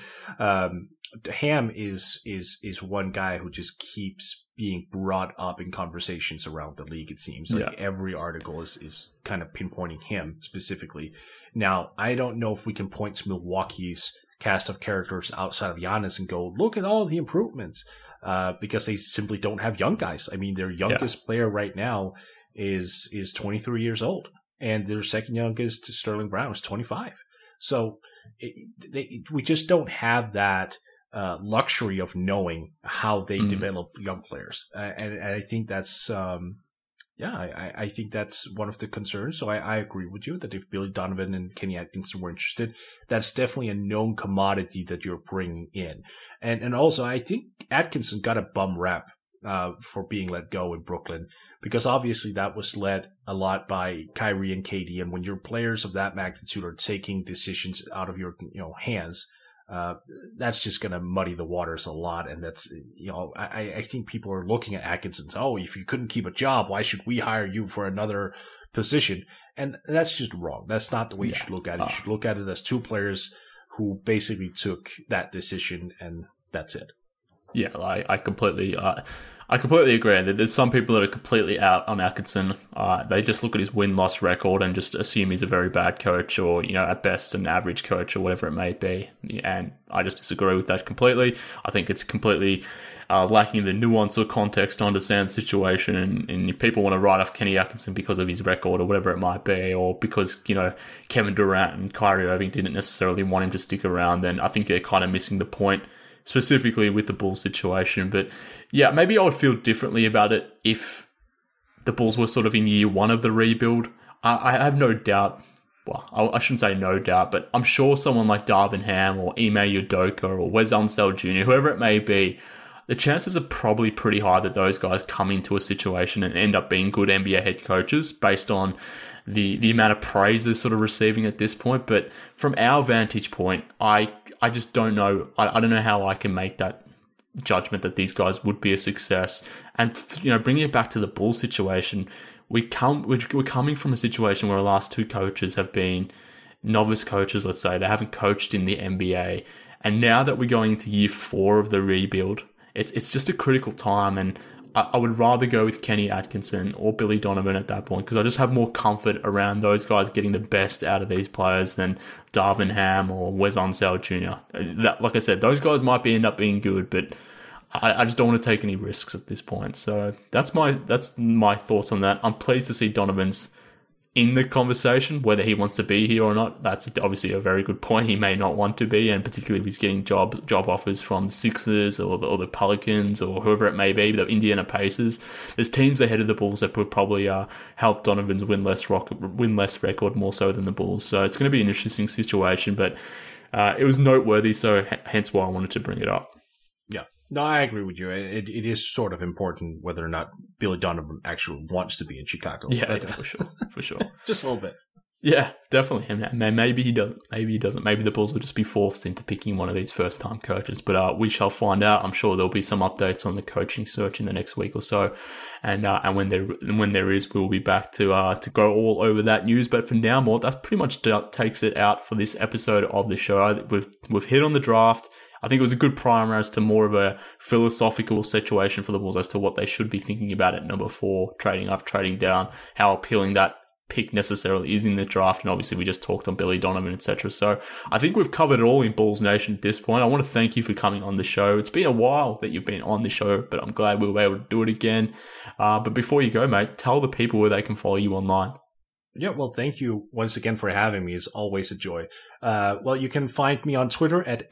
Ham is one guy who just keeps being brought up in conversations around the league. It seems like every article is kind of pinpointing him specifically. Now, I don't know if we can point to Milwaukee's cast of characters outside of Giannis and go, look at all the improvements, because they simply don't have young guys. I mean, their youngest player right now is 23 years old, and their second youngest, Sterling Brown, is 25. So we just don't have that luxury of knowing how they develop young players, and I think that's I think that's one of the concerns. So I agree with you that if Billy Donovan and Kenny Atkinson were interested, that's definitely a known commodity that you're bringing in, and also I think Atkinson got a bum rap for being let go in Brooklyn, because obviously that was led a lot by Kyrie and KD. And when your players of that magnitude are taking decisions out of your hands, that's just going to muddy the waters a lot. And that's, I think people are looking at Atkinson. Oh, if you couldn't keep a job, why should we hire you for another position? And that's just wrong. That's not the way you should look at it. You should look at it as two players who basically took that decision, and that's it. Yeah, I completely I completely agree that there's some people that are completely out on Atkinson. They just look at his win-loss record and just assume he's a very bad coach or, at best an average coach or whatever it may be. And I just disagree with that completely. I think it's completely lacking the nuance or context to understand the situation. And if people want to write off Kenny Atkinson because of his record or whatever it might be, or because, Kevin Durant and Kyrie Irving didn't necessarily want him to stick around, then I think they're kind of missing the point, specifically with the Bulls situation. But yeah, maybe I would feel differently about it if the Bulls were sort of in year one of the rebuild. I have no doubt, well, I shouldn't say no doubt, but I'm sure someone like Darvin Ham or Ime Udoka or Wes Unseld Jr., whoever it may be, the chances are probably pretty high that those guys come into a situation and end up being good NBA head coaches based on the amount of praise they're sort of receiving at this point. But from our vantage point, I just don't know. I don't know how I can make that judgment that these guys would be a success. And, bringing it back to the Bulls situation, we're coming from a situation where our last two coaches have been novice coaches, let's say. They haven't coached in the NBA. And now that we're going into year 4 of the rebuild, it's just a critical time. And I would rather go with Kenny Atkinson or Billy Donovan at that point, because I just have more comfort around those guys getting the best out of these players than Darvin Ham or Wes Unseld Jr. Like I said, those guys might end up being good, but I just don't want to take any risks at this point. So that's my thoughts on that. I'm pleased to see Donovan's in the conversation, whether he wants to be here or not. That's obviously a very good point. He may not want to be, and particularly if he's getting job offers from the Sixers or the Pelicans or whoever it may be, the Indiana Pacers. There's teams ahead of the Bulls that would probably help Donovan's win-less record more so than the Bulls. So it's going to be an interesting situation, but it was noteworthy, so hence why I wanted to bring it up. Yeah. No, I agree with you. It is sort of important whether or not Billy Donovan actually wants to be in Chicago. Yeah, for sure. Just a little bit. Yeah, definitely. And maybe he doesn't. Maybe he doesn't. Maybe the Bulls will just be forced into picking one of these first-time coaches. But we shall find out. I'm sure there'll be some updates on the coaching search in the next week or so. And when there is, we'll be back to go all over that news. But for now, Mort, that pretty much takes it out for this episode of the show. We've hit on the draft. I think it was a good primer as to more of a philosophical situation for the Bulls as to what they should be thinking about at number 4, trading up, trading down, how appealing that pick necessarily is in the draft. And obviously we just talked on Billy Donovan, etc. So I think we've covered it all in Bulls Nation at this point. I want to thank you for coming on the show. It's been a while that you've been on the show, but I'm glad we were able to do it again. But before you go, mate, tell the people where they can follow you online. Yeah, well, thank you once again for having me. It's always a joy. Well, you can find me on Twitter at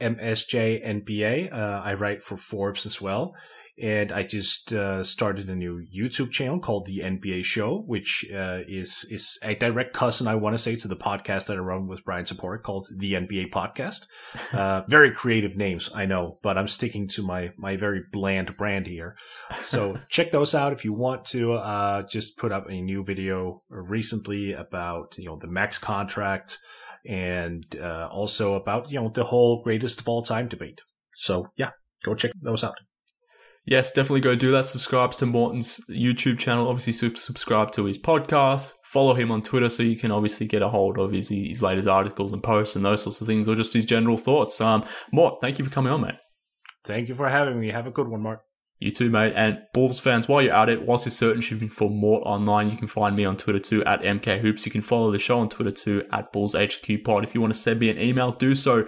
MSJNBA. I write for Forbes as well. And I just started a new YouTube channel called The NBA Show, which is a direct cousin, I want to say, to the podcast that I run with Brian Sapori called The NBA Podcast. Very creative names, I know, but I'm sticking to my very bland brand here. So check those out if you want to. Just put up a new video recently about the max contract and also about the whole greatest of all time debate. So yeah, go check those out. Yes, definitely go do that. Subscribe to Morton's YouTube channel. Obviously, subscribe to his podcast. Follow him on Twitter so you can obviously get a hold of his latest articles and posts and those sorts of things, or just his general thoughts. Mort, thank you for coming on, mate. Thank you for having me. Have a good one, Mart. You too, mate. And Bulls fans, while you're at it, whilst you're searching for Mort online, you can find me on Twitter too, at MKHoops. You can follow the show on Twitter too, at BullsHQPod. If you want to send me an email, do so.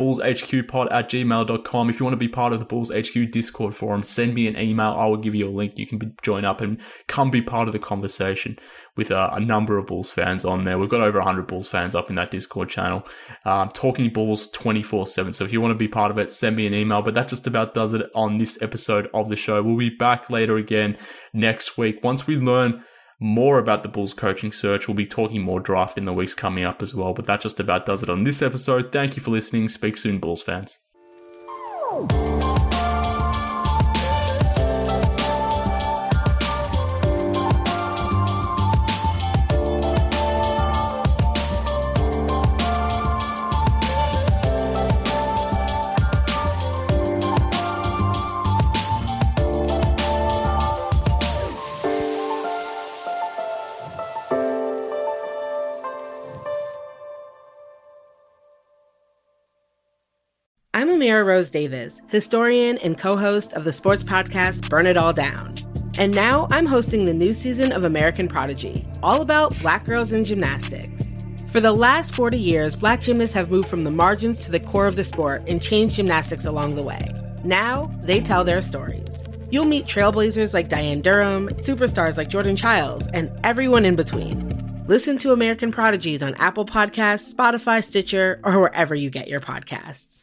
BullsHQPod@gmail.com. If you want to be part of the Bulls HQ Discord forum, send me an email. I will give you a link. You can join up and come be part of the conversation with a number of Bulls fans on there. We've got over 100 Bulls fans up in that Discord channel, talking Bulls 24/7. So if you want to be part of it, send me an email. But that just about does it on this episode of the show. We'll be back later again next week. Once we learn more about the Bulls coaching search, we'll be talking more draft in the weeks coming up as well. But that just about does it on this episode. Thank you for listening. Speak soon, Bulls fans. I'm Amira Rose Davis, historian and co-host of the sports podcast Burn It All Down. And now I'm hosting the new season of American Prodigy, all about Black girls in gymnastics. For the last 40 years, Black gymnasts have moved from the margins to the core of the sport and changed gymnastics along the way. Now, they tell their stories. You'll meet trailblazers like Diane Durham, superstars like Jordan Childs, and everyone in between. Listen to American Prodigies on Apple Podcasts, Spotify, Stitcher, or wherever you get your podcasts.